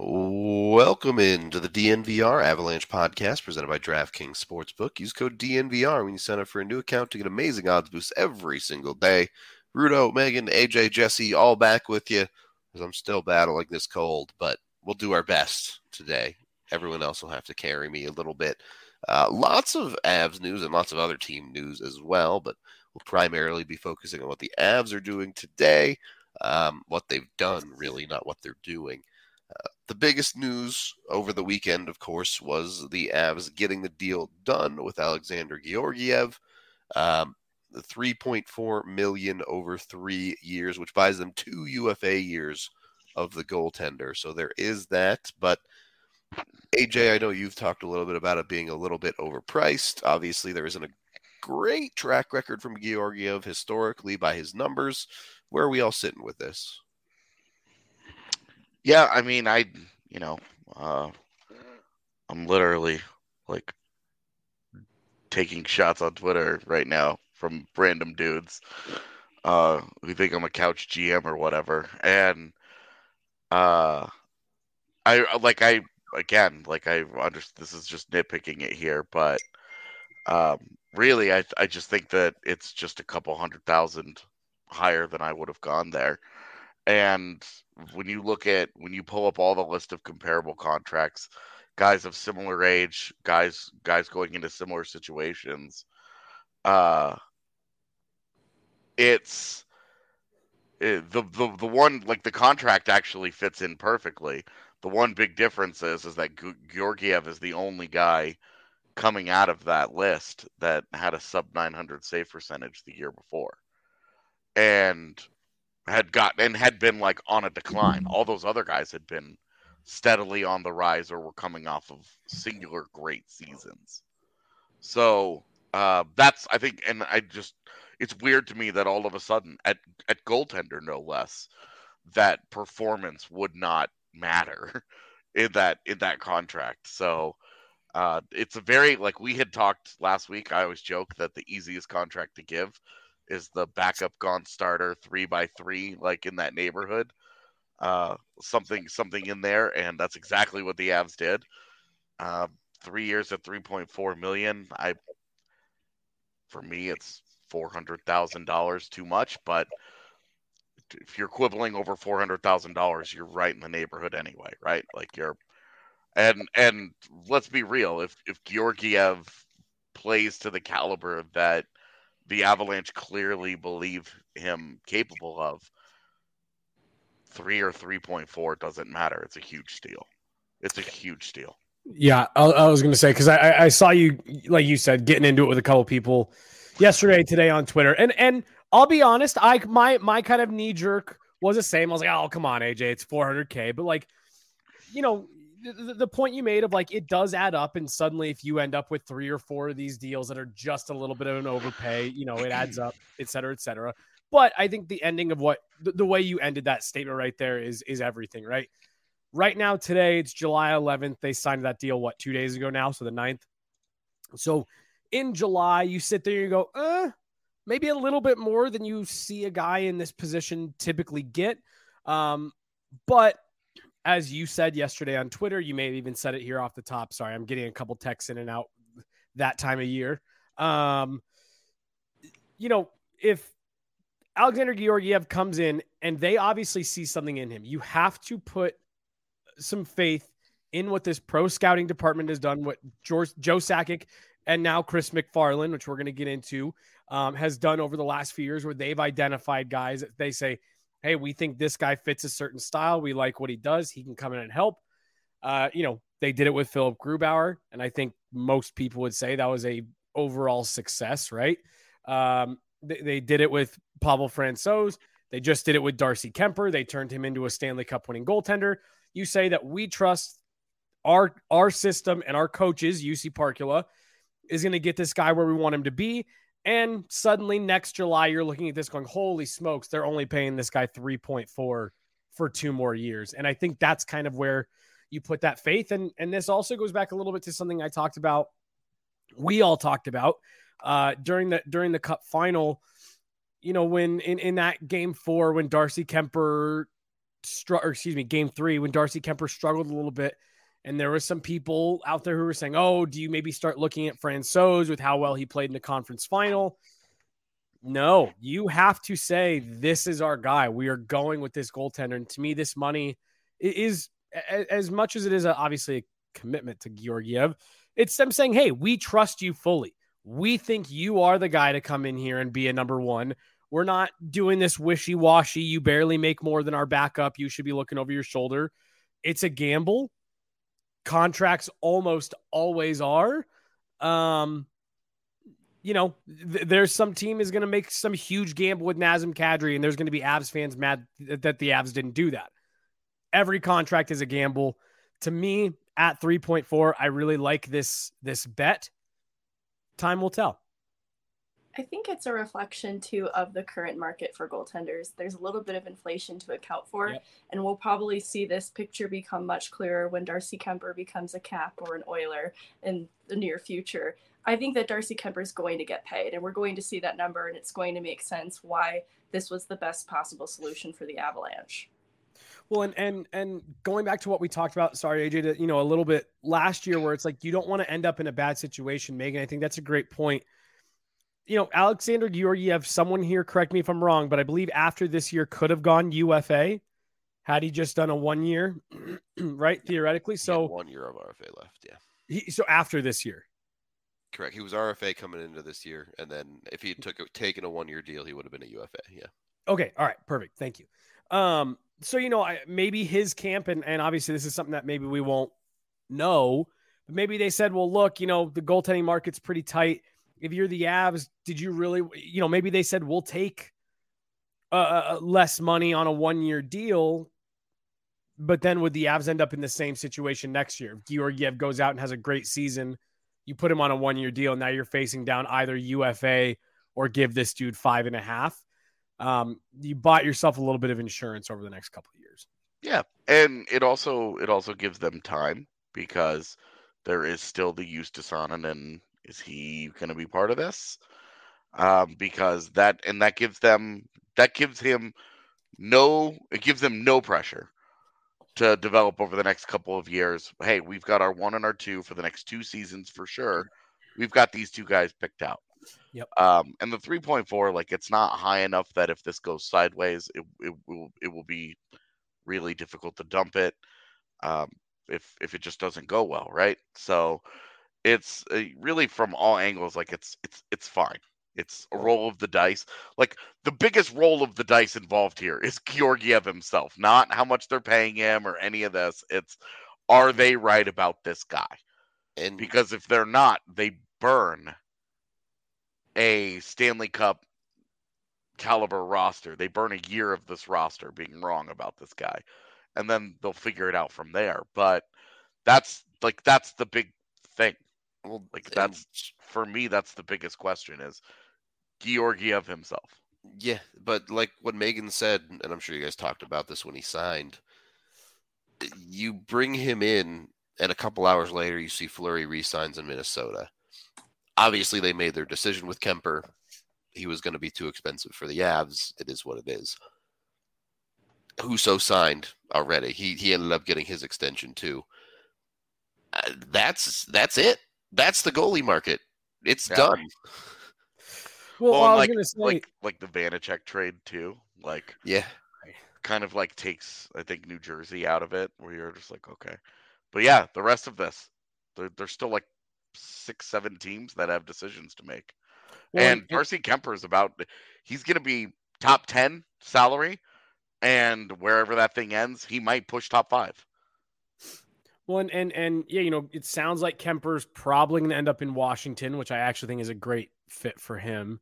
Welcome into the DNVR Avalanche podcast presented by DraftKings Sportsbook. Use code DNVR when you sign up for a new account to get amazing odds boosts every single day. Rudo, Megan, AJ, Jesse, all back with you because I'm still battling this cold, but we'll do our best today. Everyone else will have to carry me a little bit. Lots of Avs news and lots of other team news as well, but we'll primarily be focusing on what the Avs are doing today, what they've done, really, not what they're doing. The biggest news over the weekend, of course, was the Avs getting the deal done with Alexander Georgiev. The $3.4 million over 3 years, which buys them 2 UFA years of the goaltender. So there is that. But AJ, I know you've talked a little bit about it being a little bit overpriced. Obviously, there isn't a great track record from Georgiev historically by his numbers. Where are we all sitting with this? Yeah, I mean, I'm literally like taking shots on Twitter right now from random dudes who think I'm a couch GM or whatever. And I understand this is just nitpicking it here, but really, I just think that it's just a couple 100,000 higher than I would have gone there. And when you pull up all the list of comparable contracts, guys of similar age, guys going into similar situations, it's the one, like, the contract actually fits in perfectly. The one big difference is that Georgiev is the only guy coming out of that list that had a sub 900 save percentage the year before, and had been like on a decline. All those other guys had been steadily on the rise or were coming off of singular great seasons. So that's, I think, and it's weird to me that all of a sudden at goaltender, no less, that performance would not matter in that contract. So it's a very, like we had talked last week, I always joke that the easiest contract to give is the backup gone starter 3x3, like in that neighborhood, something in there, and that's exactly what the Avs did. 3 years at $3.4 million. For me, it's $400,000 too much, but if you're quibbling over $400,000, you're right in the neighborhood anyway, right? Like and let's be real, if Georgiev plays to the caliber that the Avalanche clearly believe him capable of, 3 or 3.4 doesn't matter. It's a huge steal. Yeah, I was going to say, because I saw you, like you said, getting into it with a couple people yesterday, today on Twitter, and I'll be honest, my kind of knee jerk was the same. I was like, oh, come on, AJ, it's $400K, but like, the point you made of like, it does add up, and suddenly if you end up with 3 or 4 of these deals that are just a little bit of an overpay, it adds up, et cetera, et cetera. But I think the ending of what the way you ended that statement right there is everything, right? Right now, today, it's July 11th. They signed that deal, 2 days ago now? So the 9th. So in July, you sit there and you go, maybe a little bit more than you see a guy in this position typically get. But as you said yesterday on Twitter, you may have even said it here off the top. Sorry, I'm getting a couple texts in and out that time of year. If Alexander Georgiev comes in and they obviously see something in him, you have to put some faith in what this pro scouting department has done, what Joe Sakic and now Chris McFarland, which we're going to get into, has done over the last few years, where they've identified guys that they say, hey, we think this guy fits a certain style. We like what he does. He can come in and help. They did it with Philip Grubauer, and I think most people would say that was a overall success, right? They did it with Pavel Francouz. They just did it with Darcy Kemper. They turned him into a Stanley Cup winning goaltender. You say that we trust our system and our coaches, UC Parkula, is going to get this guy where we want him to be. And suddenly next July, you're looking at this going, holy smokes, they're only paying this guy 3.4 for 2 more years. And I think that's kind of where you put that faith. And this also goes back a little bit to something I talked about. We all talked about during the Cup final, when in that game 4, when Darcy Kemper game 3 when Darcy Kemper struggled a little bit. And there were some people out there who were saying, oh, do you maybe start looking at Francouz with how well he played in the conference final? No, you have to say, this is our guy. We are going with this goaltender. And to me, this money is, as much as it is obviously a commitment to Georgiev, it's them saying, hey, we trust you fully. We think you are the guy to come in here and be a number one. We're not doing this wishy-washy. You barely make more than our backup. You should be looking over your shoulder. It's a gamble. Contracts almost always are. There's some team is going to make some huge gamble with Nazem Kadri, and there's going to be Avs fans mad that the Avs didn't do that. Every contract is a gamble. To me, at 3.4, I really like this bet. Time will tell. I think it's a reflection, too, of the current market for goaltenders. There's a little bit of inflation to account for, yep. And we'll probably see this picture become much clearer when Darcy Kemper becomes a Cap or an Oiler in the near future. I think that Darcy Kemper is going to get paid, and we're going to see that number, and it's going to make sense why this was the best possible solution for the Avalanche. Well, and going back to what we talked about, sorry, AJ, a little bit last year where it's like you don't want to end up in a bad situation, Megan. I think that's a great point. Alexander Georgiev, someone here, correct me if I'm wrong, but I believe after this year could have gone UFA had he just done a 1 year, right? Theoretically. So 1 year of RFA left. Yeah. So after this year. Correct. He was RFA coming into this year. And then if he had taken a 1 year deal, he would have been a UFA. Yeah. Okay. All right. Perfect. Thank you. So, maybe his camp, and obviously this is something that maybe we won't know, but maybe they said, well, look, the goaltending market's pretty tight. If you're the Avs, did you really, maybe they said, we'll take less money on a 1 year deal, but then would the Avs end up in the same situation next year? If Georgiev goes out and has a great season, you put him on a 1 year deal. Now you're facing down either UFA or give this dude 5.5. You bought yourself a little bit of insurance over the next couple of years. Yeah. And it also gives them time because there is still the Justus Sonnen. Is he going to be part of this? Because that gives them no pressure to develop over the next couple of years. Hey, we've got our 1 and our 2 for the next 2 seasons for sure. We've got these 2 guys picked out. Yep. And the 3.4, it's not high enough that if this goes sideways, it will be really difficult to dump it. If it just doesn't go well, right? So it's really from all angles, it's fine. It's a roll of the dice. The biggest roll of the dice involved here is Georgiev himself, not how much they're paying him or any of this. It's, are they right about this guy? And because if they're not, they burn a Stanley Cup caliber roster. They burn a year of this roster being wrong about this guy, and then they'll figure it out from there. But that's the big thing. Well, that's, for me, that's the biggest question is Georgiev himself. Yeah, but like what Megan said, and I'm sure you guys talked about this when he signed, you bring him in, and a couple hours later you see Fleury re-signs in Minnesota. Obviously, they made their decision with Kemper. He was going to be too expensive for the Avs. It is what it is. Husso signed already. He ended up getting his extension too. That's it. That's the goalie market. It's done. Well, I was going to say, like the Vanacek trade too. Yeah, kind of takes, I think, New Jersey out of it, where you're just okay. But yeah, the rest of this, there's still 6-7 teams that have decisions to make. Well, and Darcy Kemper is he's going to be top 10 salary, and wherever that thing ends, he might push top 5. Well, and yeah, it sounds like Kemper's probably going to end up in Washington, which I actually think is a great fit for him.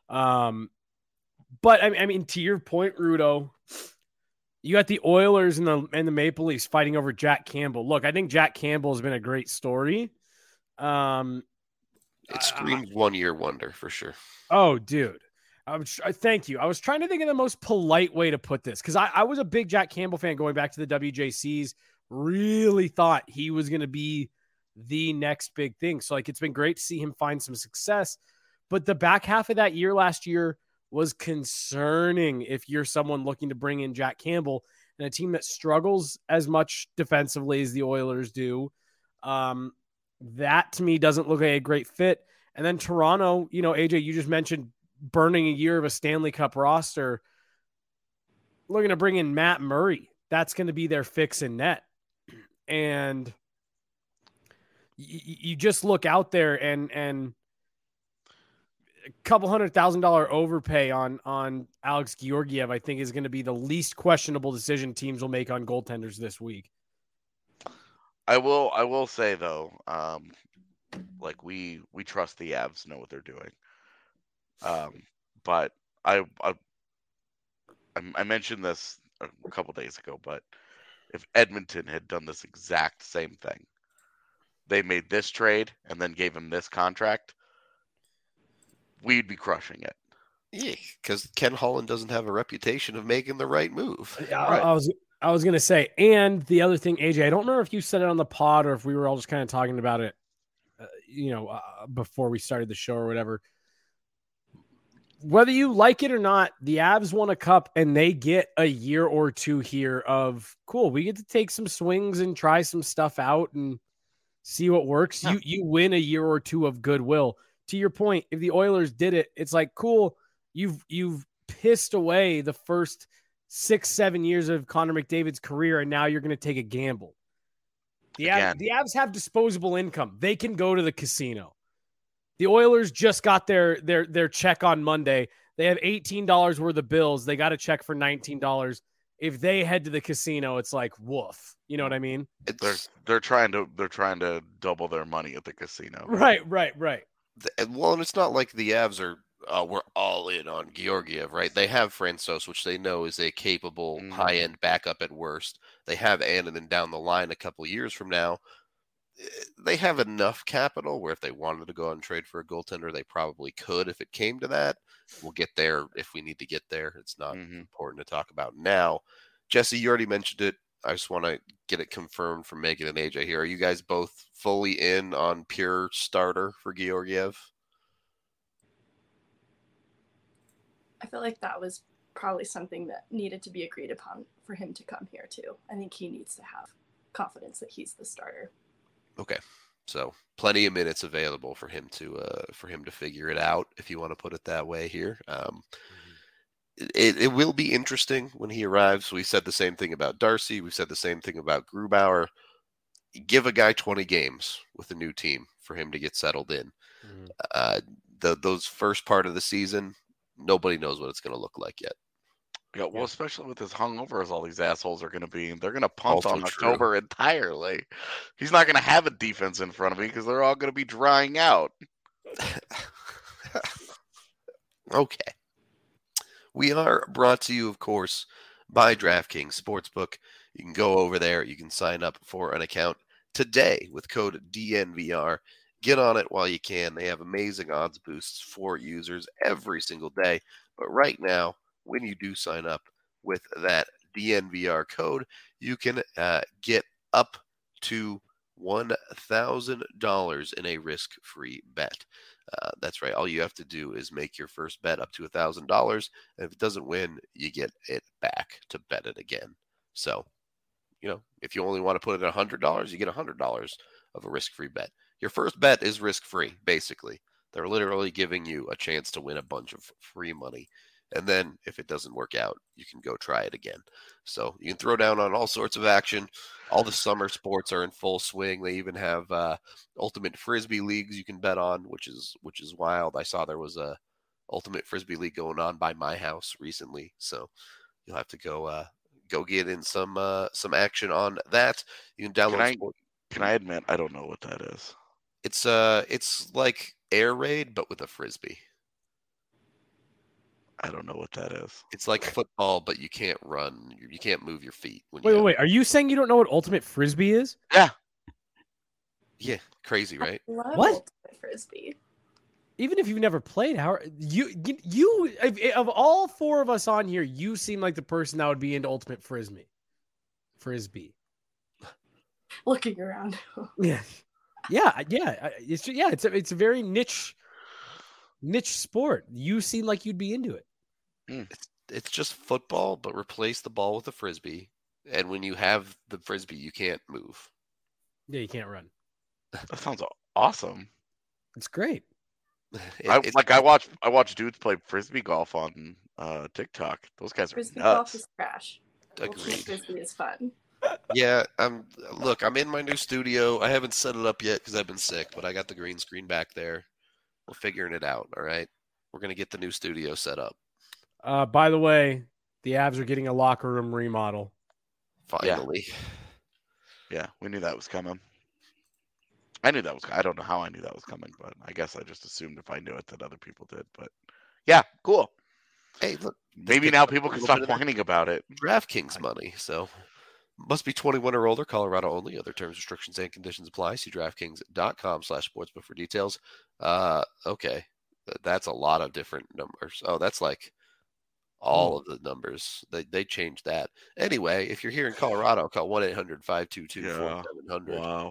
But I mean, to your point, Rudo, you got the Oilers and the Maple Leafs fighting over Jack Campbell. Look, I think Jack Campbell has been a great story. It screams 1 year wonder for sure. Oh, dude. Thank you. I was trying to think of the most polite way to put this, because I was a big Jack Campbell fan going back to the WJCs. Really thought he was going to be the next big thing. So it's been great to see him find some success. But the back half of that year last year was concerning if you're someone looking to bring in Jack Campbell. and a team that struggles as much defensively as the Oilers do. That to me doesn't look like a great fit. And then Toronto, AJ, you just mentioned burning a year of a Stanley Cup roster. Looking to bring in Matt Murray. That's going to be their fix in net. And you just look out there and a couple $100,000 overpay on Alex Georgiev, I think, is going to be the least questionable decision teams will make on goaltenders this week. I will say though, we trust the Avs know what they're doing. But I mentioned this a couple days ago, but if Edmonton had done this exact same thing, they made this trade and then gave him this contract, we'd be crushing it. Yeah, because Ken Holland doesn't have a reputation of making the right move. Right. I was going to say, and the other thing, AJ, I don't remember if you said it on the pod or if we were all just kind of talking about it, before we started the show or whatever. Whether you like it or not, the Avs won a cup and they get a year or two here of cool. We get to take some swings and try some stuff out and see what works. Yeah. You win a year or two of goodwill. To your point, if the Oilers did it, it's like, cool. You've pissed away the first 6-7 years of Connor McDavid's career, and now you're going to take a gamble. The Avs have disposable income. They can go to the casino. The Oilers just got their check on Monday. They have $18 worth of bills. They got a check for $19. If they head to the casino, it's like woof. You know what I mean? They're trying to double their money at the casino. Right. Well, and it's not like the Avs are we're all in on Georgiev, right? They have Francouz, which they know is a capable high-end backup at worst. They have Annunen down the line a couple years from now. They have enough capital where if they wanted to go out and trade for a goaltender, they probably could if it came to that. We'll get there if we need to get there. It's not important to talk about now. Jesse, you already mentioned it. I just want to get it confirmed from Megan and AJ here. Are you guys both fully in on pure starter for Georgiev? I feel like that was probably something that needed to be agreed upon for him to come here too. I think he needs to have confidence that he's the starter. Okay, so plenty of minutes available for him to figure it out, if you want to put it that way here. It will be interesting when he arrives. We said the same thing about Darcy. We've said the same thing about Grubauer. Give a guy 20 games with a new team for him to get settled in. Those first part of the season, nobody knows what it's going to look like yet. Yeah, well, especially with as hungover as all these assholes are going to be, they're going to punt on October entirely. He's not going to have a defense in front of him because they're all going to be drying out. Okay. We are brought to you, of course, by DraftKings Sportsbook. You can go over there. You can sign up for an account today with code DNVR. Get on it while you can. They have amazing odds boosts for users every single day. But right now, when you do sign up with that DNVR code, you can get up to $1,000 in a risk-free bet. That's right. All you have to do is make your first bet up to $1,000. And if it doesn't win, you get it back to bet it again. So, if you only want to put it at $100, you get $100 of a risk-free bet. Your first bet is risk-free, basically. They're literally giving you a chance to win a bunch of free money. And then if it doesn't work out, you can go try it again. So you can throw down on all sorts of action. All the summer sports are in full swing. They even have ultimate Frisbee leagues you can bet on, which is wild. I saw there was a ultimate Frisbee league going on by my house recently. So you'll have to go get in some action on that. You can download. Can I admit I don't know what that is? It's like Air Raid but with a Frisbee. I don't know what that is. It's like football, but you can't run. You can't move your feet. Wait. Are you saying you don't know what ultimate Frisbee is? Yeah. Yeah. Crazy, right? What? Ultimate Frisbee. Even if you've never played, how you of all four of us on here, you seem like the person that would be into ultimate Frisbee. Looking around. Yeah. It's a very niche sport. You seem like you'd be into it. It's just football, but replace the ball with a Frisbee. And when you have the Frisbee, you can't move. Yeah, you can't run. That sounds awesome. It's great. I watch dudes play Frisbee golf on TikTok. Those guys are Frisbee nuts. golf is trash. Agreed. Frisbee is fun. Yeah, I'm in my new studio. I haven't set it up yet because I've been sick, but I got the green screen back there. We're figuring it out. All right, we're gonna get the new studio set up. By the way, the Avs are getting a locker room remodel. Finally. Yeah, we knew that was coming. I knew that was. I don't know how I knew that was coming, but I guess I just assumed if I knew it that other people did. But yeah, cool. Hey, look. Maybe now people can stop whining about it. DraftKings money, so must be 21 or older, Colorado only. Other terms, restrictions, and conditions apply. See DraftKings.com/sportsbook for details. Okay, that's a lot of different numbers. Oh, that's like all of the numbers. They changed that. Anyway, if you're here in Colorado, call 1-800-522-4700. Wow.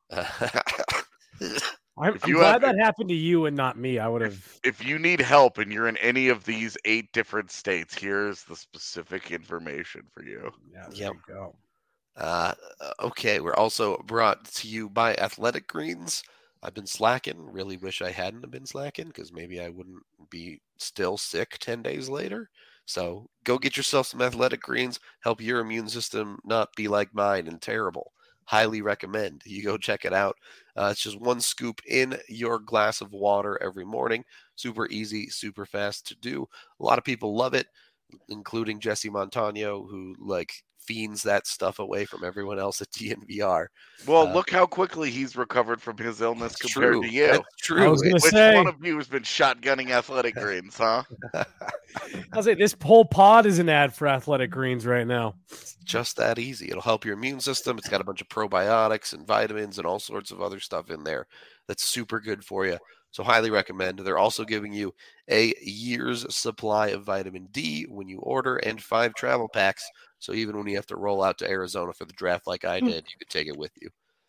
I'm glad that happened to you and not me. I would have. If you need help and you're in any of these 8 different states, here's the specific information for you. Yeah, there you go. Okay, we're also brought to you by Athletic Greens. I've been slacking. Really wish I hadn't have been slacking because maybe I wouldn't be still sick 10 days later. So go get yourself some Athletic Greens. Help your immune system not be like mine and terrible. Highly recommend you go check it out. It's just 1 scoop in your glass of water every morning. Super easy, super fast to do. A lot of people love it, including Jesse Montano, who fiends that stuff away from everyone else at DNVR. Well, look how quickly he's recovered from his illness compared to you. That's true. I was gonna Which say, one of you has been shotgunning Athletic Greens, huh? I'll say this whole pod is an ad for Athletic Greens right now. It's just that easy. It'll help your immune system. It's got a bunch of probiotics and vitamins and all sorts of other stuff in there that's super good for you. So highly recommend. They're also giving you a year's supply of vitamin D when you order and 5 travel packs. So even when you have to roll out to Arizona for the draft like I did, you could take it with you.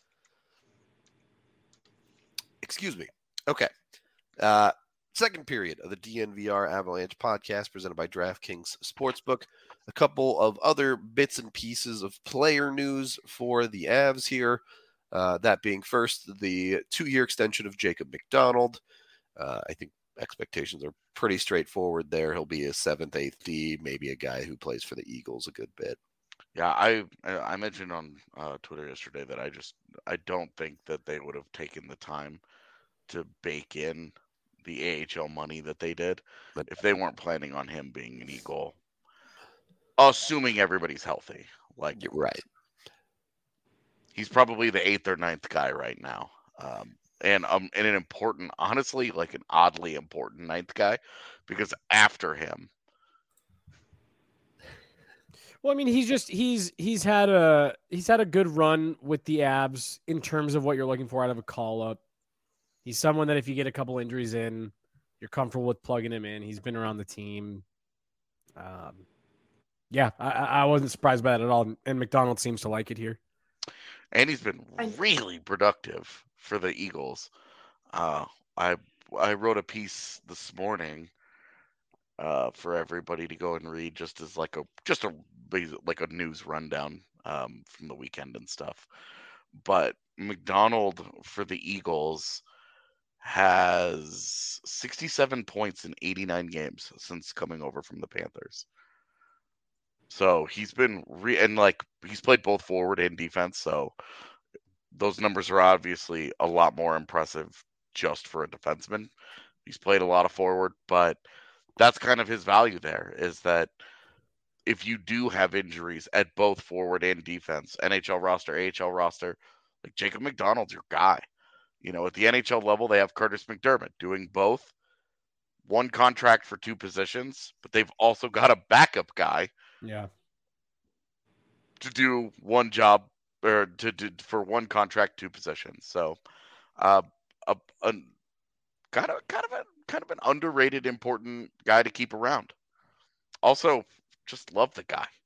Excuse me. Okay. Second period of the DNVR Avalanche podcast presented by DraftKings Sportsbook. A couple of other bits and pieces of player news for the Avs here. That being first, the 2-year extension of Jacob McDonald. I think expectations are pretty straightforward there. He'll be a 7th, 8th D, maybe a guy who plays for the Eagles a good bit. Yeah, I mentioned on Twitter yesterday that I don't think that they would have taken the time to bake in the AHL money that they did if they weren't planning on him being an Eagle, assuming everybody's healthy. You're right. He's probably the 8th or 9th guy right now. And an important, honestly, an oddly important 9th guy, because after him. Well, I mean, he's had a good run with the Avs in terms of what you're looking for out of a call up. He's someone that if you get a couple injuries in, you're comfortable with plugging him in. He's been around the team. Yeah, I wasn't surprised by that at all. And McDonald seems to like it here. And he's been really productive for the Eagles. I wrote a piece this morning for everybody to go and read, just as a news rundown from the weekend and stuff. But McDonald for the Eagles has 67 points in 89 games since coming over from the Panthers. So he's been he's played both forward and defense. So those numbers are obviously a lot more impressive just for a defenseman. He's played a lot of forward, but that's kind of his value there, is that if you do have injuries at both forward and defense, NHL roster, AHL roster, Jacob McDonald's your guy. At the NHL level, they have Curtis McDermott doing both. 1 contract for 2 positions, but they've also got a backup guy. Yeah. To do 1 job, or for 1 contract, 2 positions. So, kind of an underrated, important guy to keep around. Also, just love the guy.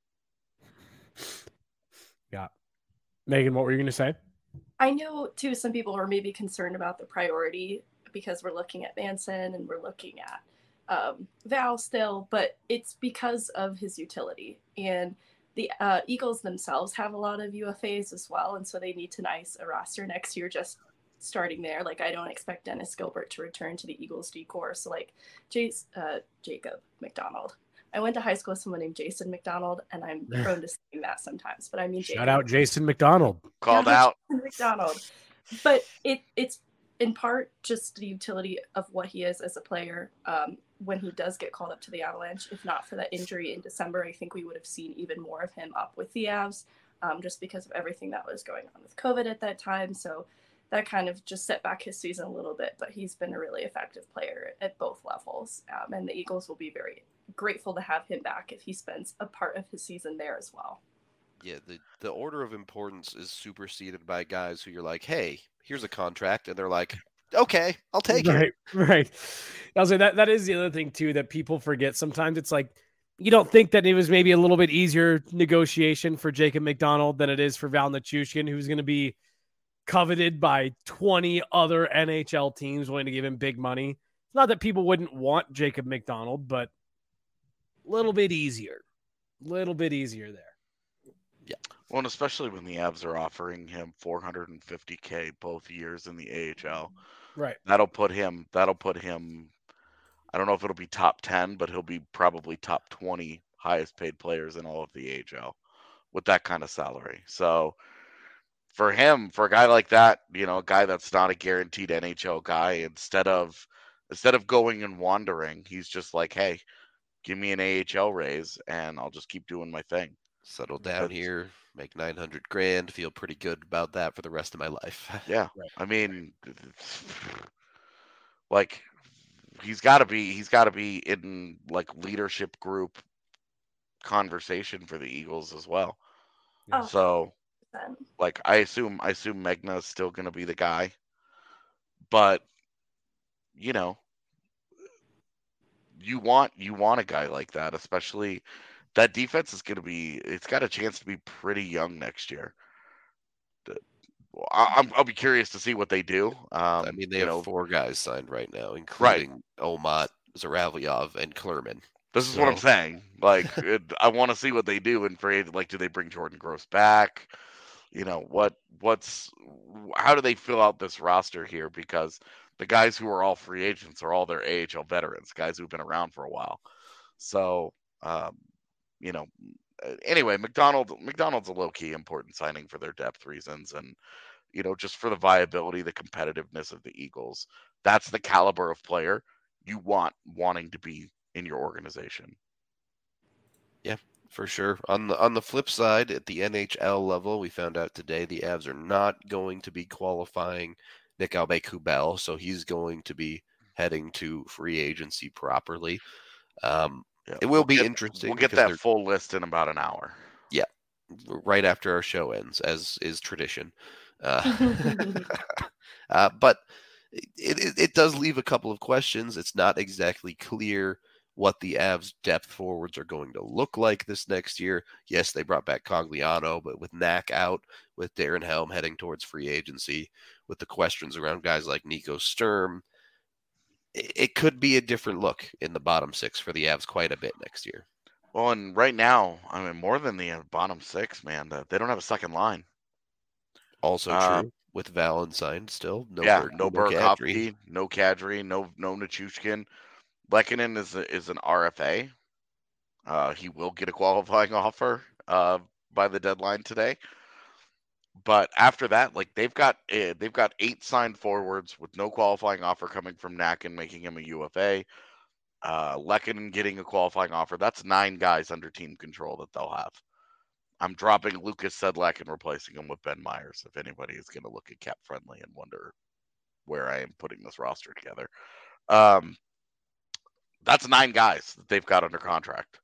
Yeah. Megan, what were you going to say? I know, too, some people are maybe concerned about the priority because we're looking at Manson and we're looking at Val still, but it's because of his utility. And The Eagles themselves have a lot of UFAs as well, and so they need to nice a roster next year just starting there. Like, I don't expect Dennis Gilbert to return to the Eagles decor. So, like, Jacob McDonald. I went to high school with someone named Jason McDonald, and I'm prone to saying that sometimes, but I mean Shout out Jason McDonald. Called out. McDonald. But it's in part just the utility of what he is as a player. When he does get called up to the Avalanche, if not for that injury in December, I think we would have seen even more of him up with the Avs, just because of everything that was going on with COVID at that time. So that kind of just set back his season a little bit, but he's been a really effective player at both levels. And the Eagles will be very grateful to have him back if he spends a part of his season there as well. Yeah, the order of importance is superseded by guys who you're like, hey, here's a contract, and they're like, okay, I'll take it. Right. I'll say that is the other thing too that people forget. Sometimes it's like you don't think that it was maybe a little bit easier negotiation for Jacob McDonald than it is for Val Nichushkin, who's going to be coveted by 20 other NHL teams willing to give him big money. It's not that people wouldn't want Jacob McDonald, but a little bit easier there. Yeah. Well, and especially when the Avs are offering him $450K both years in the AHL. Right. That'll put him, I don't know if it'll be top 10, but he'll be probably top 20 highest paid players in all of the AHL with that kind of salary. So for him, for a guy like that, a guy that's not a guaranteed NHL guy, instead of going and wandering, he's just like, hey, give me an AHL raise and I'll just keep doing my thing. Settle down here, make $900,000, feel pretty good about that for the rest of my life. Yeah. Right. I mean, like, he's got to be in like leadership group conversation for the Eagles as well. Oh, so like I assume Megna is still going to be the guy, but you want a guy like that, especially that defense is going to be, it's got a chance to be pretty young next year. I'll be curious to see what they do. I mean, they have 4 guys signed right now, including Omat, Zaravyov, and Klerman. This is what I'm saying. Like, I want to see what they do in free. Like, do they bring Jordan Gross back? How do they fill out this roster here? Because the guys who are all free agents are all their AHL veterans, guys who've been around for a while. So, anyway, McDonald's a low-key important signing for their depth reasons, and just for the viability, the competitiveness of the Eagles. That's the caliber of player you wanting to be in your organization. Yeah, for sure. On the flip side, at the NHL level, we found out today the Avs are not going to be qualifying Nick Aube-Kubel, so he's going to be heading to free agency properly. It will be interesting. We'll get that full list in about an hour. Yeah, right after our show ends, as is tradition. But it does leave a couple of questions. It's not exactly clear what the Avs depth forwards are going to look like this next year. Yes, they brought back Cogliano, but with Knack out, with Darren Helm heading towards free agency, with the questions around guys like Nico Sturm, it could be a different look in the bottom 6 for the Avs quite a bit next year. Well, and right now, I mean, more than the bottom 6, man, they don't have a second line. Also true with Valentine still. No Burakovsky, no Kadri, no Nichushkin. Lehkonen is an RFA. He will get a qualifying offer by the deadline today. But after that, like they've got 8 signed forwards with no qualifying offer coming from Knack and making him a UFA. Lehkonen getting a qualifying offer. That's 9 guys under team control that they'll have. I'm dropping Lucas Sedlak and replacing him with Ben Myers if anybody is going to look at cap friendly and wonder where I am putting this roster together. That's 9 guys that they've got under contract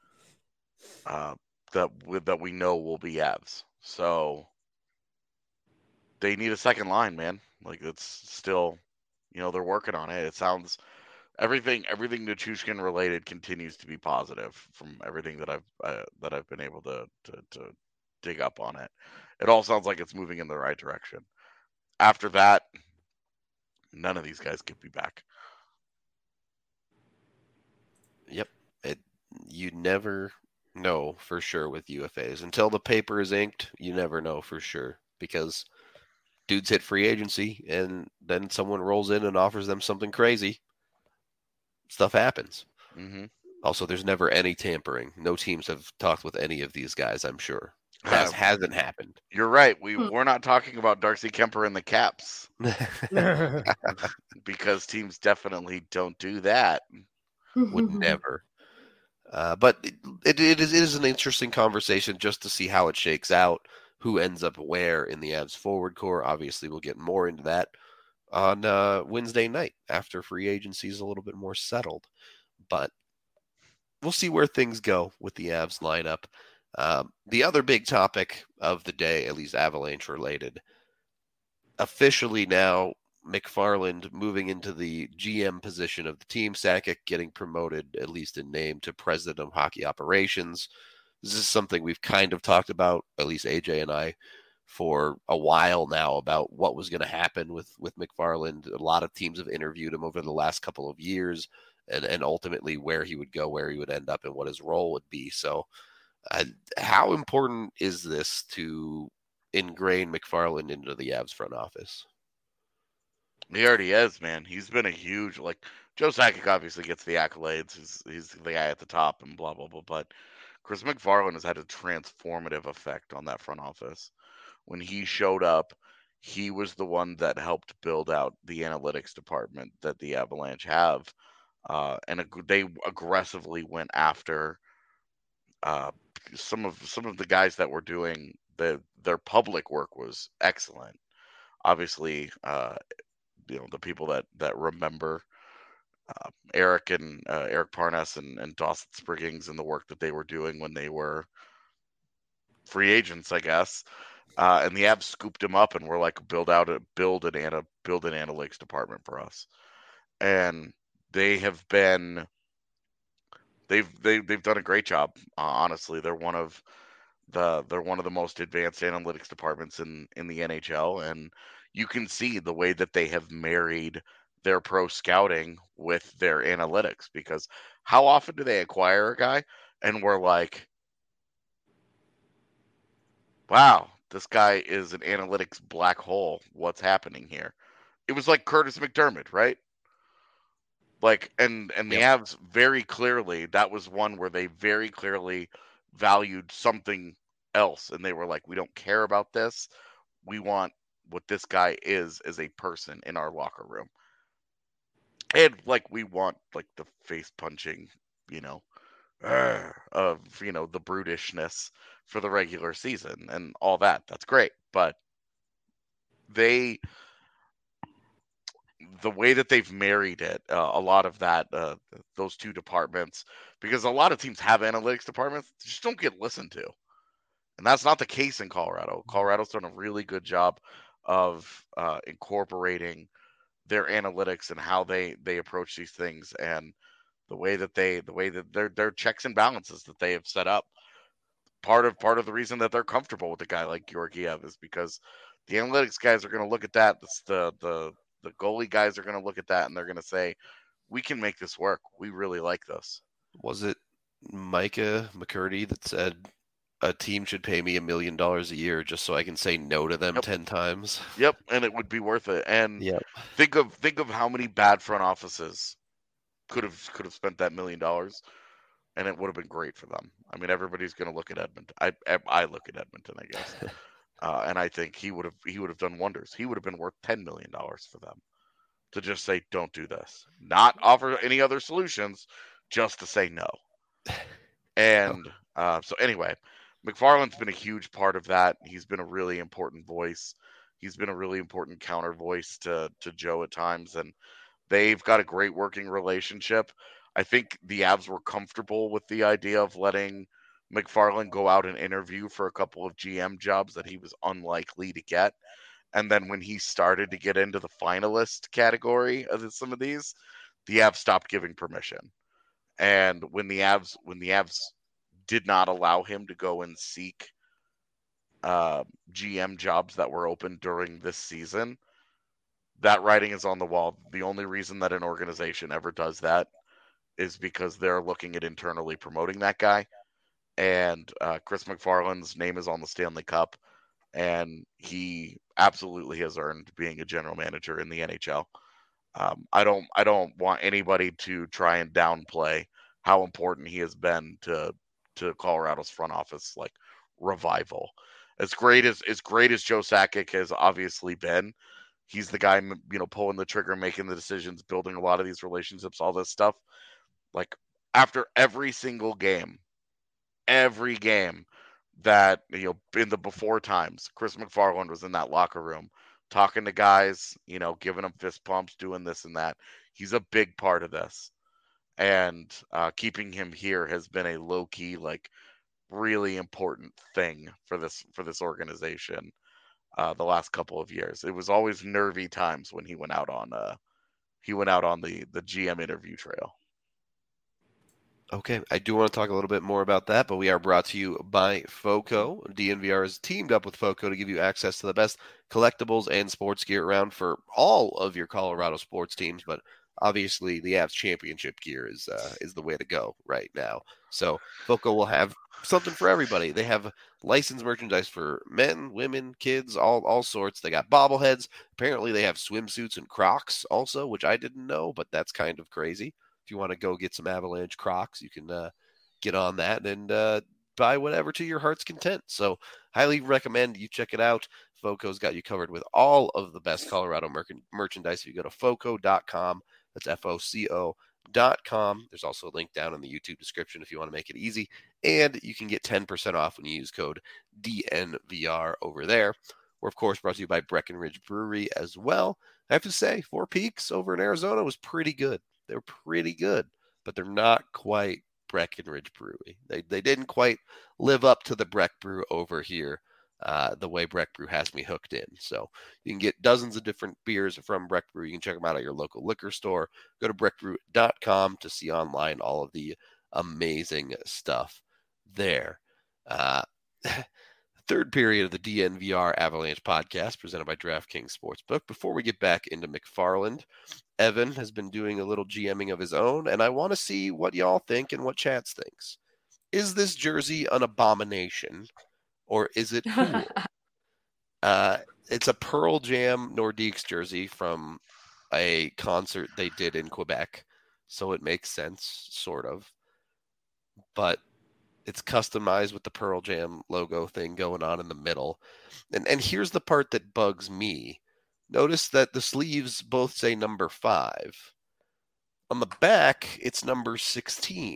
that we know will be Avs. So they need a second line, man. Like it's still, they're working on it. It sounds everything Nichushkin related continues to be positive from everything that I've been able to dig up on it. It all sounds like it's moving in the right direction. After that, none of these guys could be back. Yep. You never No, for sure with UFAs. Until the paper is inked, you never know for sure because dudes hit free agency and then someone rolls in and offers them something crazy. Stuff happens. Mm-hmm. Also, there's never any tampering. No teams have talked with any of these guys, I'm sure. That hasn't happened. You're right. We're not talking about Darcy Kemper and the Caps because teams definitely don't do that. Would never. But it is an interesting conversation just to see how it shakes out, who ends up where in the Avs forward core. Obviously, we'll get more into that on Wednesday night after free agency is a little bit more settled. But we'll see where things go with the Avs lineup. The other big topic of the day, at least Avalanche related, officially now McFarland moving into the GM position of the team, Sakic getting promoted, at least in name, to president of hockey operations. This is something we've kind of talked about, at least AJ and I, for a while now about what was going to happen with McFarland. A lot of teams have interviewed him over the last couple of years and ultimately where he would go, where he would end up, and what his role would be. So how important is this to ingrain McFarland into the Avs front office? He already is, man. He's been a huge, like, Joe Sakic obviously gets the accolades. He's the guy at the top and blah, blah, blah. But Chris McFarland has had a transformative effect on that front office. When he showed up, he was the one that helped build out the analytics department that the Avalanche have. And they aggressively went after some of the guys that were doing their public work was excellent. Obviously, the people that remember Eric Parnas and Dawson Spriggins and the work that they were doing when they were free agents, I guess. And the Avs scooped him up and were like, build an analytics department for us. And they've done a great job. Honestly, they're one of the most advanced analytics departments in the NHL, and you can see the way that they have married their pro scouting with their analytics. Because how often do they acquire a guy and we're like, wow, this guy is an analytics black hole. What's happening here? It was like Curtis McDermott, right? Like, and the Avs very clearly, that was one where they very clearly valued something else, and they were like, we don't care about this. We want what this guy is as a person in our locker room. And like, we want like the face punching, of the brutishness for the regular season and all that. That's great, but the way that they've married it, a lot of that, those two departments, because a lot of teams have analytics departments, just don't get listened to. And that's not the case in Colorado. Colorado's done a really good job of incorporating their analytics and how they approach these things, and the way that their checks and balances that they have set up. Part of the reason that they're comfortable with a guy like Georgiev is because the analytics guys are going to look at that. The goalie guys are going to look at that and they're going to say, we can make this work. We really like this. Was it Micah McCurdy that said a team should pay me $1 million a year just so I can say no to them 10 times? Yep, and it would be worth it. And think of how many bad front offices could have spent that $1 million, and it would have been great for them. I mean, everybody's going to look at Edmonton. I look at Edmonton, I guess. And I think he would have done wonders. He would have been worth $10 million for them to just say, don't do this. Not offer any other solutions, just to say no. And so anyway, McFarland's been a huge part of that. He's been a really important voice. He's been a really important counter voice to Joe at times. And they've got a great working relationship. I think the Avs were comfortable with the idea of letting McFarland go out and interview for a couple of GM jobs that he was unlikely to get. And then when he started to get into the finalist category of some of these, the Avs stopped giving permission. And when the Avs did not allow him to go and seek GM jobs that were open during this season, that writing is on the wall. The only reason that an organization ever does that is because they're looking at internally promoting that guy. and Chris McFarland's name is on the Stanley Cup, and he absolutely has earned being a general manager in the NHL. I don't want anybody to try and downplay how important he has been to Colorado's front office like revival. As great as Joe Sakic has obviously been, he's the guy pulling the trigger, making the decisions, building a lot of these relationships, all this stuff. Like after every single game, that in the before times, Chris McFarland was in that locker room talking to guys, giving them fist pumps, doing this and that. He's a big part of this, and keeping him here has been a low key, like, really important thing for this organization. The last couple of years, it was always nervy times when he went out on the GM interview trail. Okay, I do want to talk a little bit more about that, but we are brought to you by FOCO. DNVR has teamed up with FOCO to give you access to the best collectibles and sports gear around for all of your Colorado sports teams, but obviously the Avs championship gear is the way to go right now. So FOCO will have something for everybody. They have licensed merchandise for men, women, kids, all sorts. They got bobbleheads. Apparently they have swimsuits and Crocs also, which I didn't know, but that's kind of crazy. If you want to go get some Avalanche Crocs, you can get on that and buy whatever to your heart's content. So highly recommend you check it out. FOCO's got you covered with all of the best Colorado merchandise. If you go to FOCO.com, that's FOCO.com. There's also a link down in the YouTube description if you want to make it easy. And you can get 10% off when you use code DNVR over there. We're, of course, brought to you by Breckenridge Brewery as well. I have to say, Four Peaks over in Arizona was pretty good. They're pretty good, but they're not quite Breckenridge Brewery. They didn't quite live up to the Breck Brew over here, the way Breck Brew has me hooked in. So you can get dozens of different beers from Breck Brew. You can check them out at your local liquor store. Go to breckbrew.com to see online all of the amazing stuff there. Third period of the DNVR Avalanche podcast presented by DraftKings Sportsbook. Before we get back into McFarland, Evan has been doing a little GMing of his own, and I want to see what y'all think and what Chats thinks. Is this jersey an abomination, or is it cool? It's a Pearl Jam Nordiques jersey from a concert they did in Quebec, so it makes sense, sort of. But it's customized with the Pearl Jam logo thing going on in the middle. And here's the part that bugs me. Notice that the sleeves both say number 5. On the back, it's number 16.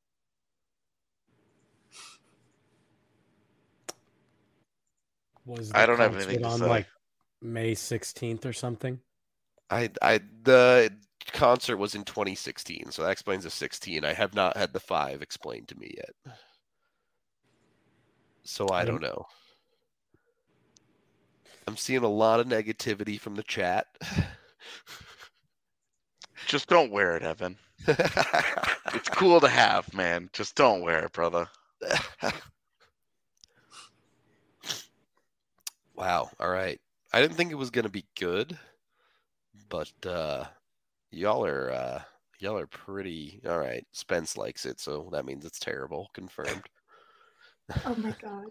I don't have anything to on say. Like May 16th or something? The concert was in 2016, so that explains the 16. I have not had the 5 explained to me yet. So I don't know. I'm seeing a lot of negativity from the chat. Just don't wear it, Evan. It's cool to have, man. Just don't wear it, brother. Wow. All right. I didn't think it was going to be good, but y'all are pretty all right. Spence likes it, so that means it's terrible. Confirmed. Oh my god.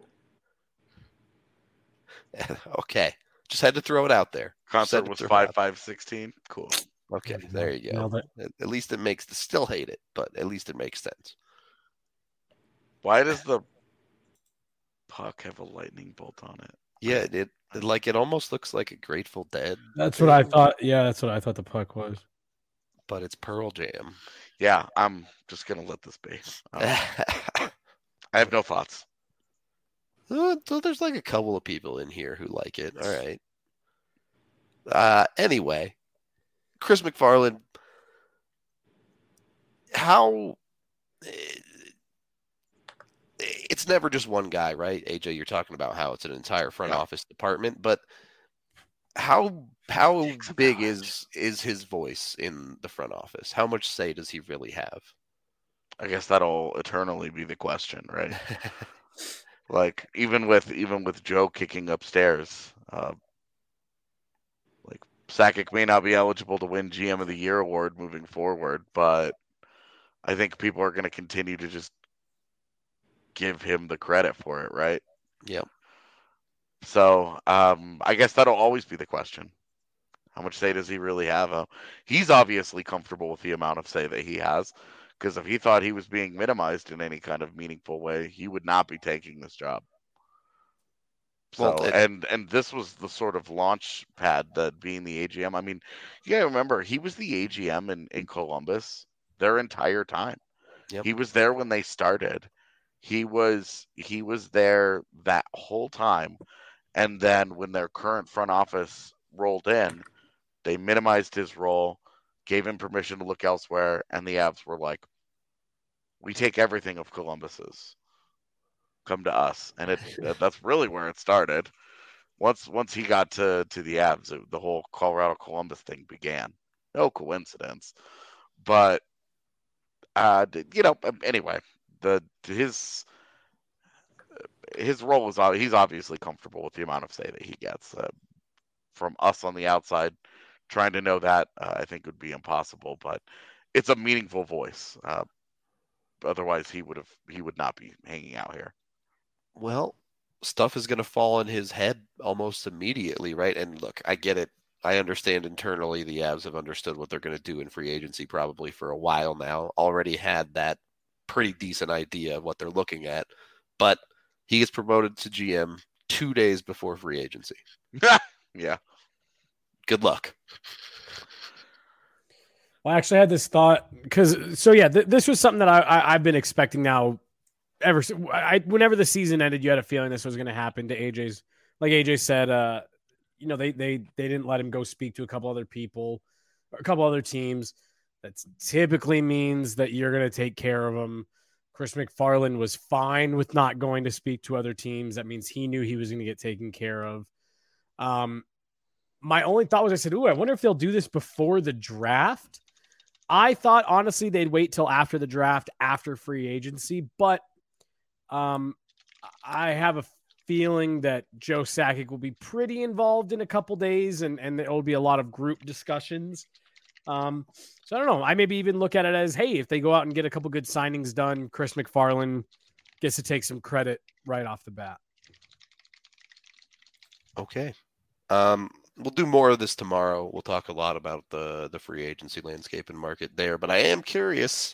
Okay. Just had to throw it out there. Concert was 5/5/16. Cool. Okay, there you go. At least it makes still hate it, but at least it makes sense. Why does the puck have a lightning bolt on it? Yeah, it almost looks like a Grateful Dead. That's what I thought. Yeah, that's what I thought the puck was. But it's Pearl Jam. Yeah, I'm just gonna let this be. I have no thoughts. So there's like a couple of people in here who like it. All right. Anyway, Chris McFarland, it's never just one guy, right? AJ, you're talking about how it's an entire front office department, but how big is his voice in the front office? How much say does he really have? I guess that'll eternally be the question, right? Like even with Joe kicking upstairs, like Sakic may not be eligible to win GM of the Year award moving forward, but I think people are going to continue to just give him the credit for it, right? Yep. So I guess that'll always be the question. How much say does he really have? He's obviously comfortable with the amount of say that he has, because if he thought he was being minimized in any kind of meaningful way, he would not be taking this job. Well, So and this was the sort of launch pad that being the AGM. I mean, you gotta remember he was the AGM in Columbus their entire time. Yep. He was there when they started. He was there that whole time. And then when their current front office rolled in, they minimized his role, gave him permission to look elsewhere, and the Avs were like, "We take everything of Columbus's. Come to us." And that's really where it started. Once he got to the Avs, the whole Colorado Columbus thing began. No coincidence, but anyway, his role was he's obviously comfortable with the amount of say that he gets. From us on the outside, trying to know that I think would be impossible, but it's a meaningful voice. Otherwise, he would not be hanging out here. Well, stuff is going to fall in his head almost immediately, right? And look, I get it. I understand internally the Avs have understood what they're going to do in free agency probably for a while now. Already had that pretty decent idea of what they're looking at, but he gets promoted to GM 2 days before free agency. Yeah. Good luck. Well, I actually had this thought because, this was something that I've been expecting now whenever the season ended, you had a feeling this was going to happen to AJ's. Like AJ said, they didn't let him go speak to a couple other people, or a couple other teams. That typically means that you're going to take care of him. Chris MacFarland was fine with not going to speak to other teams. That means he knew he was going to get taken care of. My only thought was, I said, I wonder if they'll do this before the draft. I thought, honestly, they'd wait till after the draft, after free agency. But I have a feeling that Joe Sakic will be pretty involved in a couple days, and there will be a lot of group discussions. So I don't know. I maybe even look at it as, hey, if they go out and get a couple good signings done, Chris MacFarland gets to take some credit right off the bat. Okay. We'll do more of this tomorrow. We'll talk a lot about the free agency landscape and market there, but I am curious,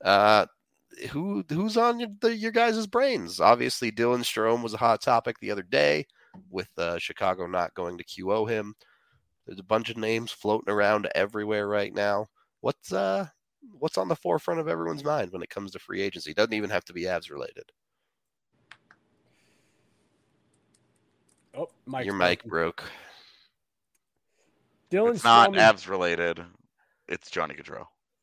who's on your guys' brains? Obviously, Dylan Strome was a hot topic the other day with Chicago not going to QO him. There's a bunch of names floating around everywhere right now. What's on the forefront of everyone's mind when it comes to free agency? It doesn't even have to be Avs related. Oh, your mic broke. Dylan it's not Avs related. It's Johnny Gaudreau.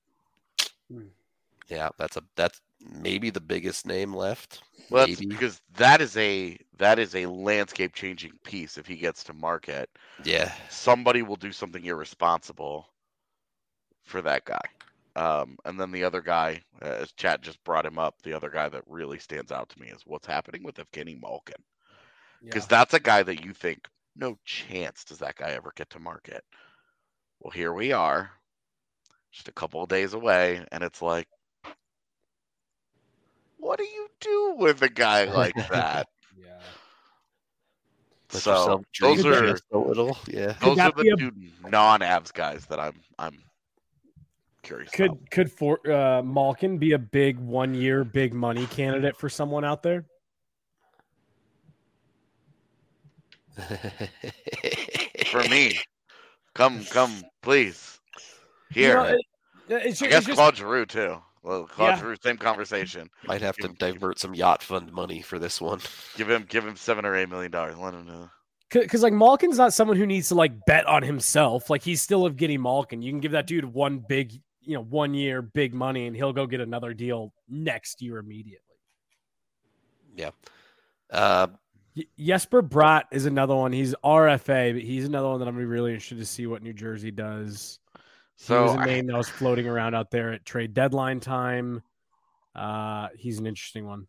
Yeah, that's maybe the biggest name left. Well, that's because that is a landscape changing piece. If he gets to market, yeah, somebody will do something irresponsible for that guy. And then the other guy, as chat just brought him up, the other guy that really stands out to me is what's happening with Evgeny Malkin. Because that's a guy that you think, no chance does that guy ever get to market. Well, here we are, just a couple of days away, and it's like, what do you do with a guy like that? Yeah. So those are the two non-Avs guys that I'm curious. Could Malkin be a big 1 year big money candidate for someone out there? For me, come, please. Here, I guess Claude Giroux too. Well, Claude Giroux, same conversation. Might have to divert some yacht fund money for this one. Give him $7 or $8 million. Let him know. Because like Malkin's not someone who needs to like bet on himself. Like he's still Evgeny Malkin. You can give that dude 1 year big money, and he'll go get another deal next year immediately. Yeah. Jesper Bratt is another one. He's RFA, but he's another one that I'm really interested to see what New Jersey does. So he was a name that was floating around out there at trade deadline time. He's an interesting one.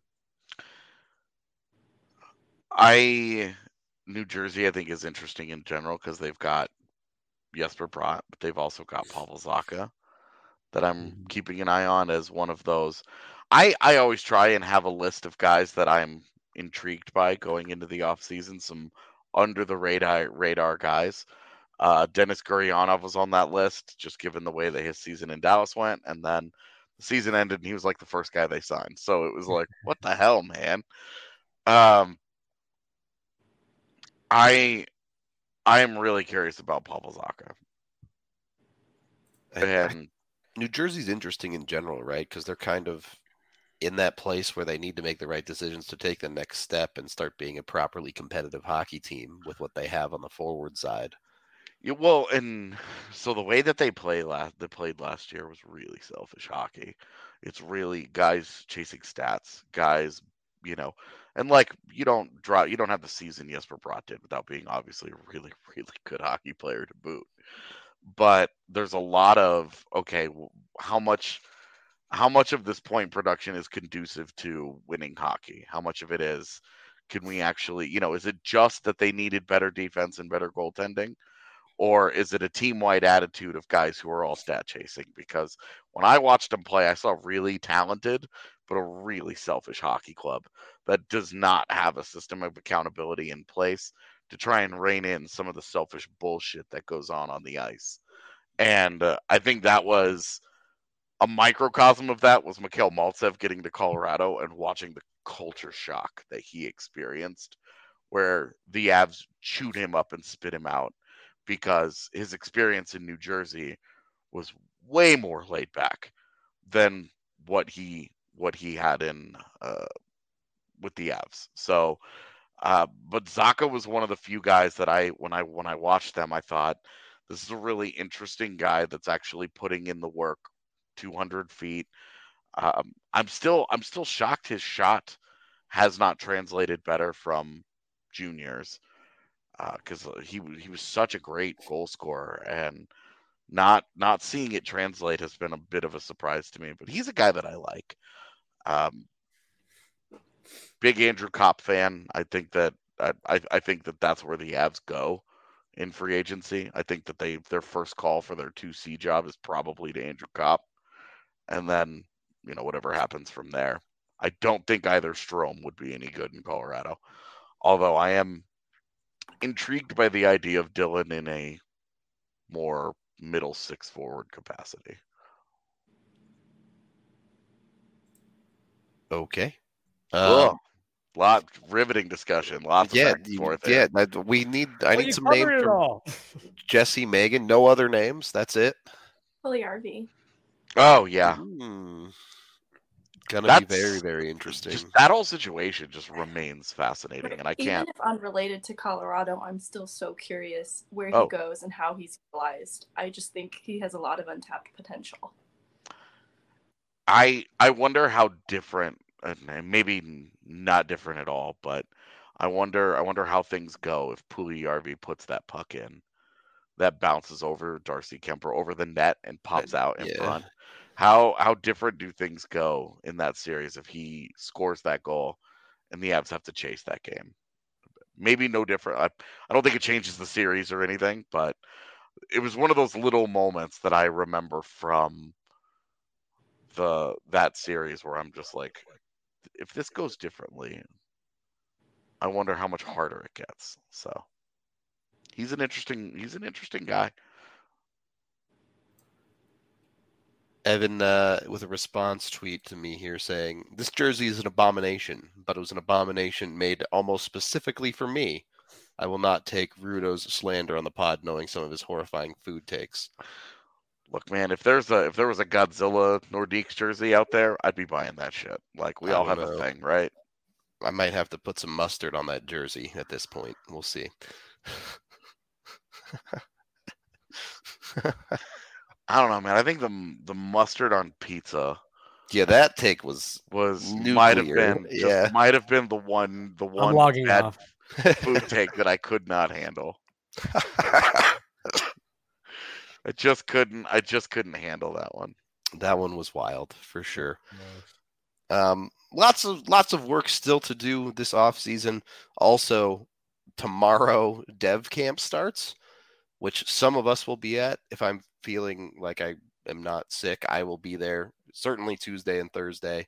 New Jersey, I think, is interesting in general because they've got Jesper Bratt, but they've also got Pavel Zacha that I'm keeping an eye on as one of those. I always try and have a list of guys that I'm intrigued by going into the offseason, some under the radar guys. Denis Gurianov was on that list, just given the way that his season in Dallas went, and then the season ended, and he was like the first guy they signed. So it was like, what the hell, man? I am really curious about Pavel Zacha. And New Jersey's interesting in general, right? Because they're kind of in that place where they need to make the right decisions to take the next step and start being a properly competitive hockey team with what they have on the forward side. Yeah, well, and so the way that they played last year was really selfish hockey. It's really guys chasing stats, guys, and like you don't have the season Jesper Bratt did without being obviously a really, really good hockey player to boot. But there's a lot of how much of this point production is conducive to winning hockey? How much of it is, can we actually, is it just that they needed better defense and better goaltending? Or is it a team-wide attitude of guys who are all stat chasing? Because when I watched them play, I saw really talented, but a really selfish hockey club that does not have a system of accountability in place to try and rein in some of the selfish bullshit that goes on the ice. And I think that was a microcosm of that was Mikhail Maltsev getting to Colorado and watching the culture shock that he experienced, where the Avs chewed him up and spit him out because his experience in New Jersey was way more laid back than what he had in with the Avs. So, but Zacha was one of the few guys that when I watched them, I thought this is a really interesting guy that's actually putting in the work. 200 feet. I'm still shocked his shot has not translated better from juniors, because he was such a great goal scorer, and not seeing it translate has been a bit of a surprise to me. But he's a guy that I like. Big Andrew Kopp fan. I think that that's where the Avs go in free agency. I think that their first call for their 2C job is probably to Andrew Kopp. And then, whatever happens from there. I don't think either Strome would be any good in Colorado. Although I am intrigued by the idea of Dylan in a more middle six forward capacity. Okay. Riveting discussion. Lots of back and forth. Yeah, I need some names from Jesse, Megan. No other names. That's it. Puljujarvi. Oh, yeah. Gonna be very, very interesting. That whole situation just remains fascinating, and I can't. Even if unrelated to Colorado, I'm still so curious where he goes and how he's utilized. I just think he has a lot of untapped potential. I wonder how different, and maybe not different at all, but I wonder how things go if Puljujarvi puts that puck in. That bounces over Darcy Kemper over the net and pops out in front. How different do things go in that series if he scores that goal and the Avs have to chase that game? Maybe no different. I don't think it changes the series or anything, but it was one of those little moments that I remember from that series where I'm just like, if this goes differently, I wonder how much harder it gets. So he's an interesting guy. Evan with a response tweet to me here saying, "This jersey is an abomination, but it was an abomination made almost specifically for me. I will not take Rudo's slander on the pod, knowing some of his horrifying food takes." Look, man, if there was a Godzilla Nordiques jersey out there, I'd be buying that shit. Like, we all have a thing, right? I might have to put some mustard on that jersey at this point. We'll see. I don't know, man. I think the mustard on pizza. Yeah, that take was might have been the one bad food take that I could not handle. I just couldn't handle that one. That one was wild for sure. Lots of work still to do this off season. Also, tomorrow Dev Camp starts, which some of us will be at. If I'm feeling like I am not sick, I will be there. Certainly Tuesday and Thursday.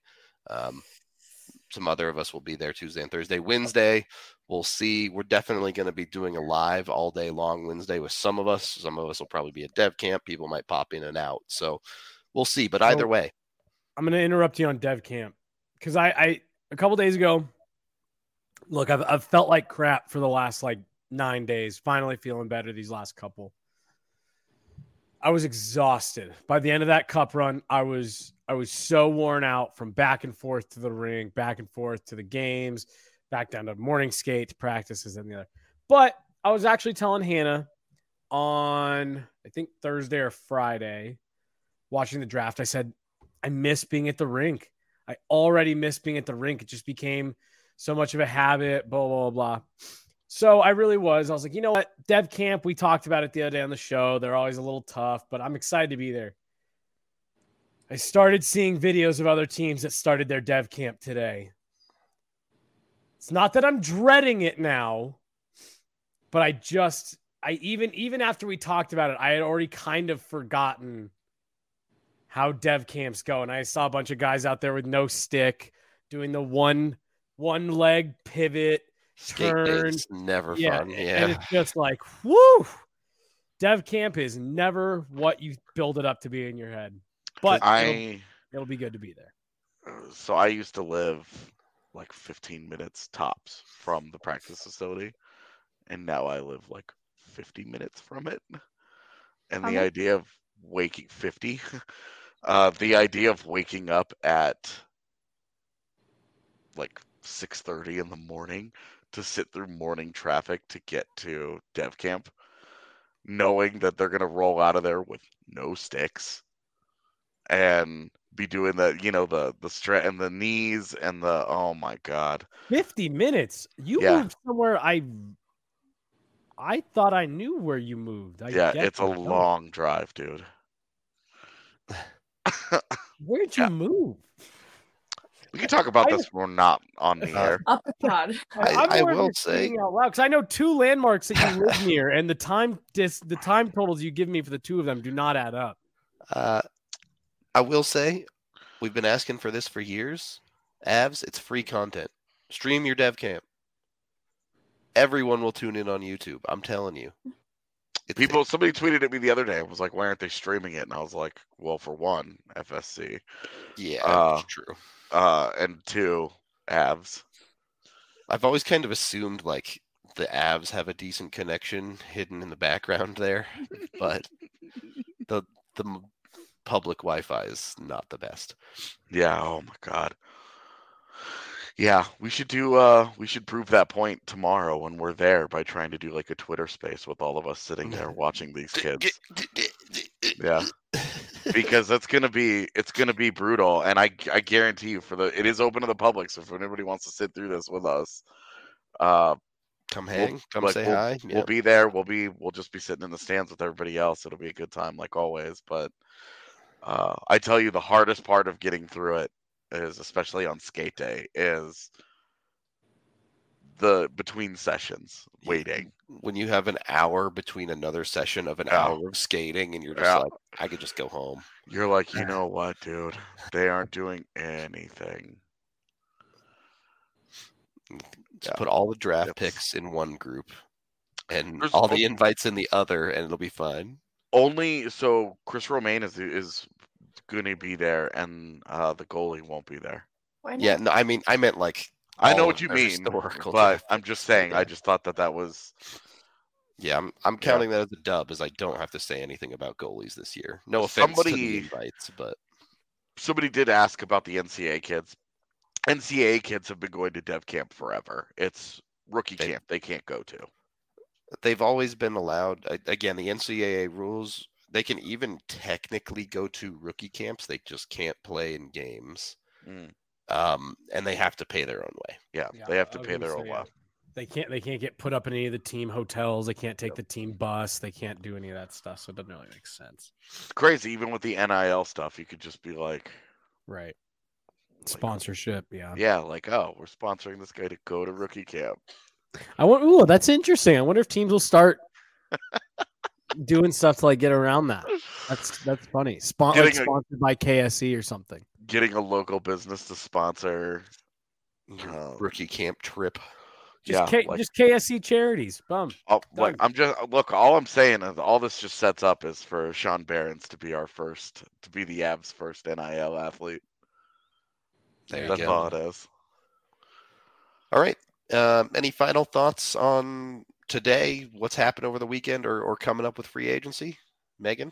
Some other of us will be there Tuesday and Thursday. Wednesday, we'll see. We're definitely going to be doing a live all day long Wednesday with some of us. Some of us will probably be at Dev Camp. People might pop in and out. So we'll see. But either way. I'm going to interrupt you on Dev Camp because I a couple days ago, look, I've felt like crap for the last 9 days. Finally feeling better these last couple. I was exhausted. By the end of that cup run, I was so worn out from back and forth to the rink, back and forth to the games, back down to morning skate, to practices, and the other. But I was actually telling Hannah on, I think, Thursday or Friday, watching the draft, I said, I miss being at the rink. I already miss being at the rink. It just became so much of a habit, blah, blah, blah. So I really was. I was like, you know what? Dev Camp, we talked about it the other day on the show. They're always a little tough, but I'm excited to be there. I started seeing videos of other teams that started their Dev Camp today. It's not that I'm dreading it now, but even after we talked about it, I had already kind of forgotten how Dev Camps go. And I saw a bunch of guys out there with no stick doing the one leg pivot. Turn. Never fun. Yeah. And it's just like, whoo, Dev Camp is never what you build it up to be in your head. But it'll be good to be there. So I used to live 15 minutes tops from the practice facility, and now I live 50 minutes from it. And the idea of waking 50, the idea of waking up at 6:30 in the morning to sit through morning traffic to get to Dev Camp, knowing that they're going to roll out of there with no sticks and be doing the stretch and the knees and oh my God. 50 minutes. You moved somewhere. I thought I knew where you moved. It's a long drive, dude. Where'd you move? We can talk about this when we're not on the air. Up the pod. I will say, because I know 2 landmarks that you live near, and the time totals you give me for the 2 of them do not add up. I will say, we've been asking for this for years. Avs, it's free content. Stream your Dev Camp. Everyone will tune in on YouTube. I'm telling you. Somebody tweeted at me the other day. I was like, why aren't they streaming it? And I was like, well, for one, FSC. Yeah, that's true. And 2, Avs. I've always kind of assumed the Avs have a decent connection hidden in the background there, but the public Wi-Fi is not the best. Yeah. Oh my God. Yeah, we should prove that point tomorrow when we're there by trying to do a Twitter space with all of us sitting there watching these kids. Yeah. Because it's gonna be brutal, and I guarantee you it is open to the public. So if anybody wants to sit through this with us, come say hi. We'll be there. We'll just be sitting in the stands with everybody else. It'll be a good time like always. But I tell you, the hardest part of getting through it is, especially on skate day, is the between sessions waiting. When you have an hour between another session of an hour of skating and you're just I could just go home. You're like, you know what, dude? They aren't doing anything. Just put all the draft picks in one group and all the invites in the other, and it'll be fine. So Chris Romaine is going to be there, and the goalie won't be there. Why not? Yeah, no, I mean, I meant I know what you mean, but I'm just saying, I just thought that was. Yeah, I'm counting that as a dub, as I don't have to say anything about goalies this year. No offense to the invites, but somebody did ask about the NCAA kids. NCAA kids have been going to Dev Camp forever. It's rookie camp they can't go to. They've always been allowed. Again, the NCAA rules, they can even technically go to rookie camps. They just can't play in games. And they have to pay their own way. Yeah, they have to pay their own way. They can't get put up in any of the team hotels. They can't take the team bus. They can't do any of that stuff. So it doesn't really make sense. It's crazy. Even with the NIL stuff, you could just be like, right. Sponsorship. Yeah. Yeah. We're sponsoring this guy to go to rookie camp. That's interesting. I wonder if teams will start doing stuff to get around that. That's funny. Sponsored by KSE or something. getting a local business to sponsor Your rookie camp trip. Just KSC charities. Bum. All I'm saying is all this just sets up is for Sean Barons to be the Avs' first NIL athlete. That's all it is. All right. Any final thoughts on today? What's happened over the weekend or coming up with free agency? Megan?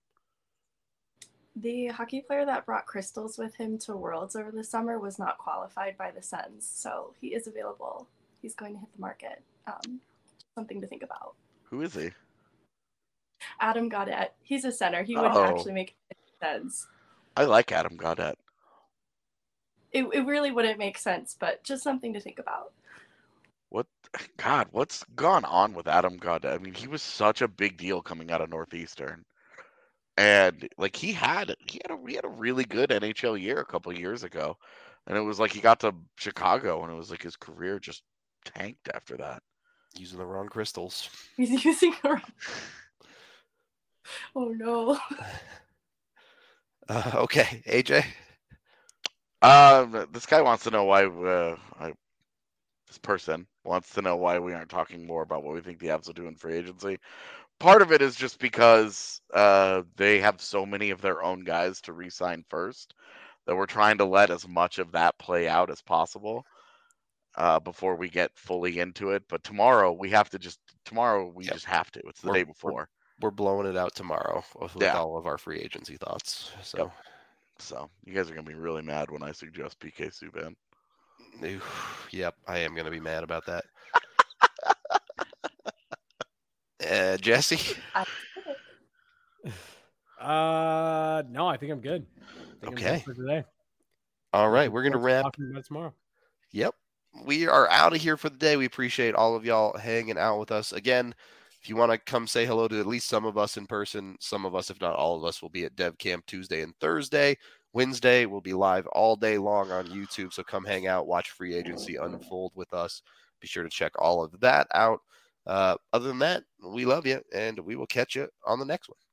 The hockey player that brought crystals with him to Worlds over the summer was not qualified by the Sens, so he is available. He's going to hit the market. Something to think about. Who is he? Adam Gaudette. He's a center. He wouldn't actually make sense. I like Adam Gaudette. It really wouldn't make sense, but just something to think about. What's gone on with Adam Gaudette? I mean, he was such a big deal coming out of Northeastern. And like he had a really good NHL year a couple of years ago. And it was like he got to Chicago and it was like his career just tanked after that. Using the wrong crystals. He's using the wrong. Oh no. Okay, AJ. This guy wants to know why this person wants to know why we aren't talking more about what we think the Avs will do in free agency. Part of it is just because they have so many of their own guys to re-sign first that we're trying to let as much of that play out as possible before we get fully into it. But tomorrow we just have to. It's the day before. We're blowing it out tomorrow with all of our free agency thoughts. So. Yep. So you guys are going to be really mad when I suggest PK Subban. Yep, I am going to be mad about that. Jesse? No, I think I'm good. Okay. I'm good for today. All right, we're going to wrap. Talking about tomorrow. Yep. We are out of here for the day. We appreciate all of y'all hanging out with us. Again, if you want to come say hello to at least some of us in person, some of us, if not all of us, will be at Dev Camp Tuesday and Thursday. Wednesday, we'll be live all day long on YouTube, so come hang out, watch free agency unfold with us. Be sure to check all of that out. Other than that, we love you, and we will catch you on the next one.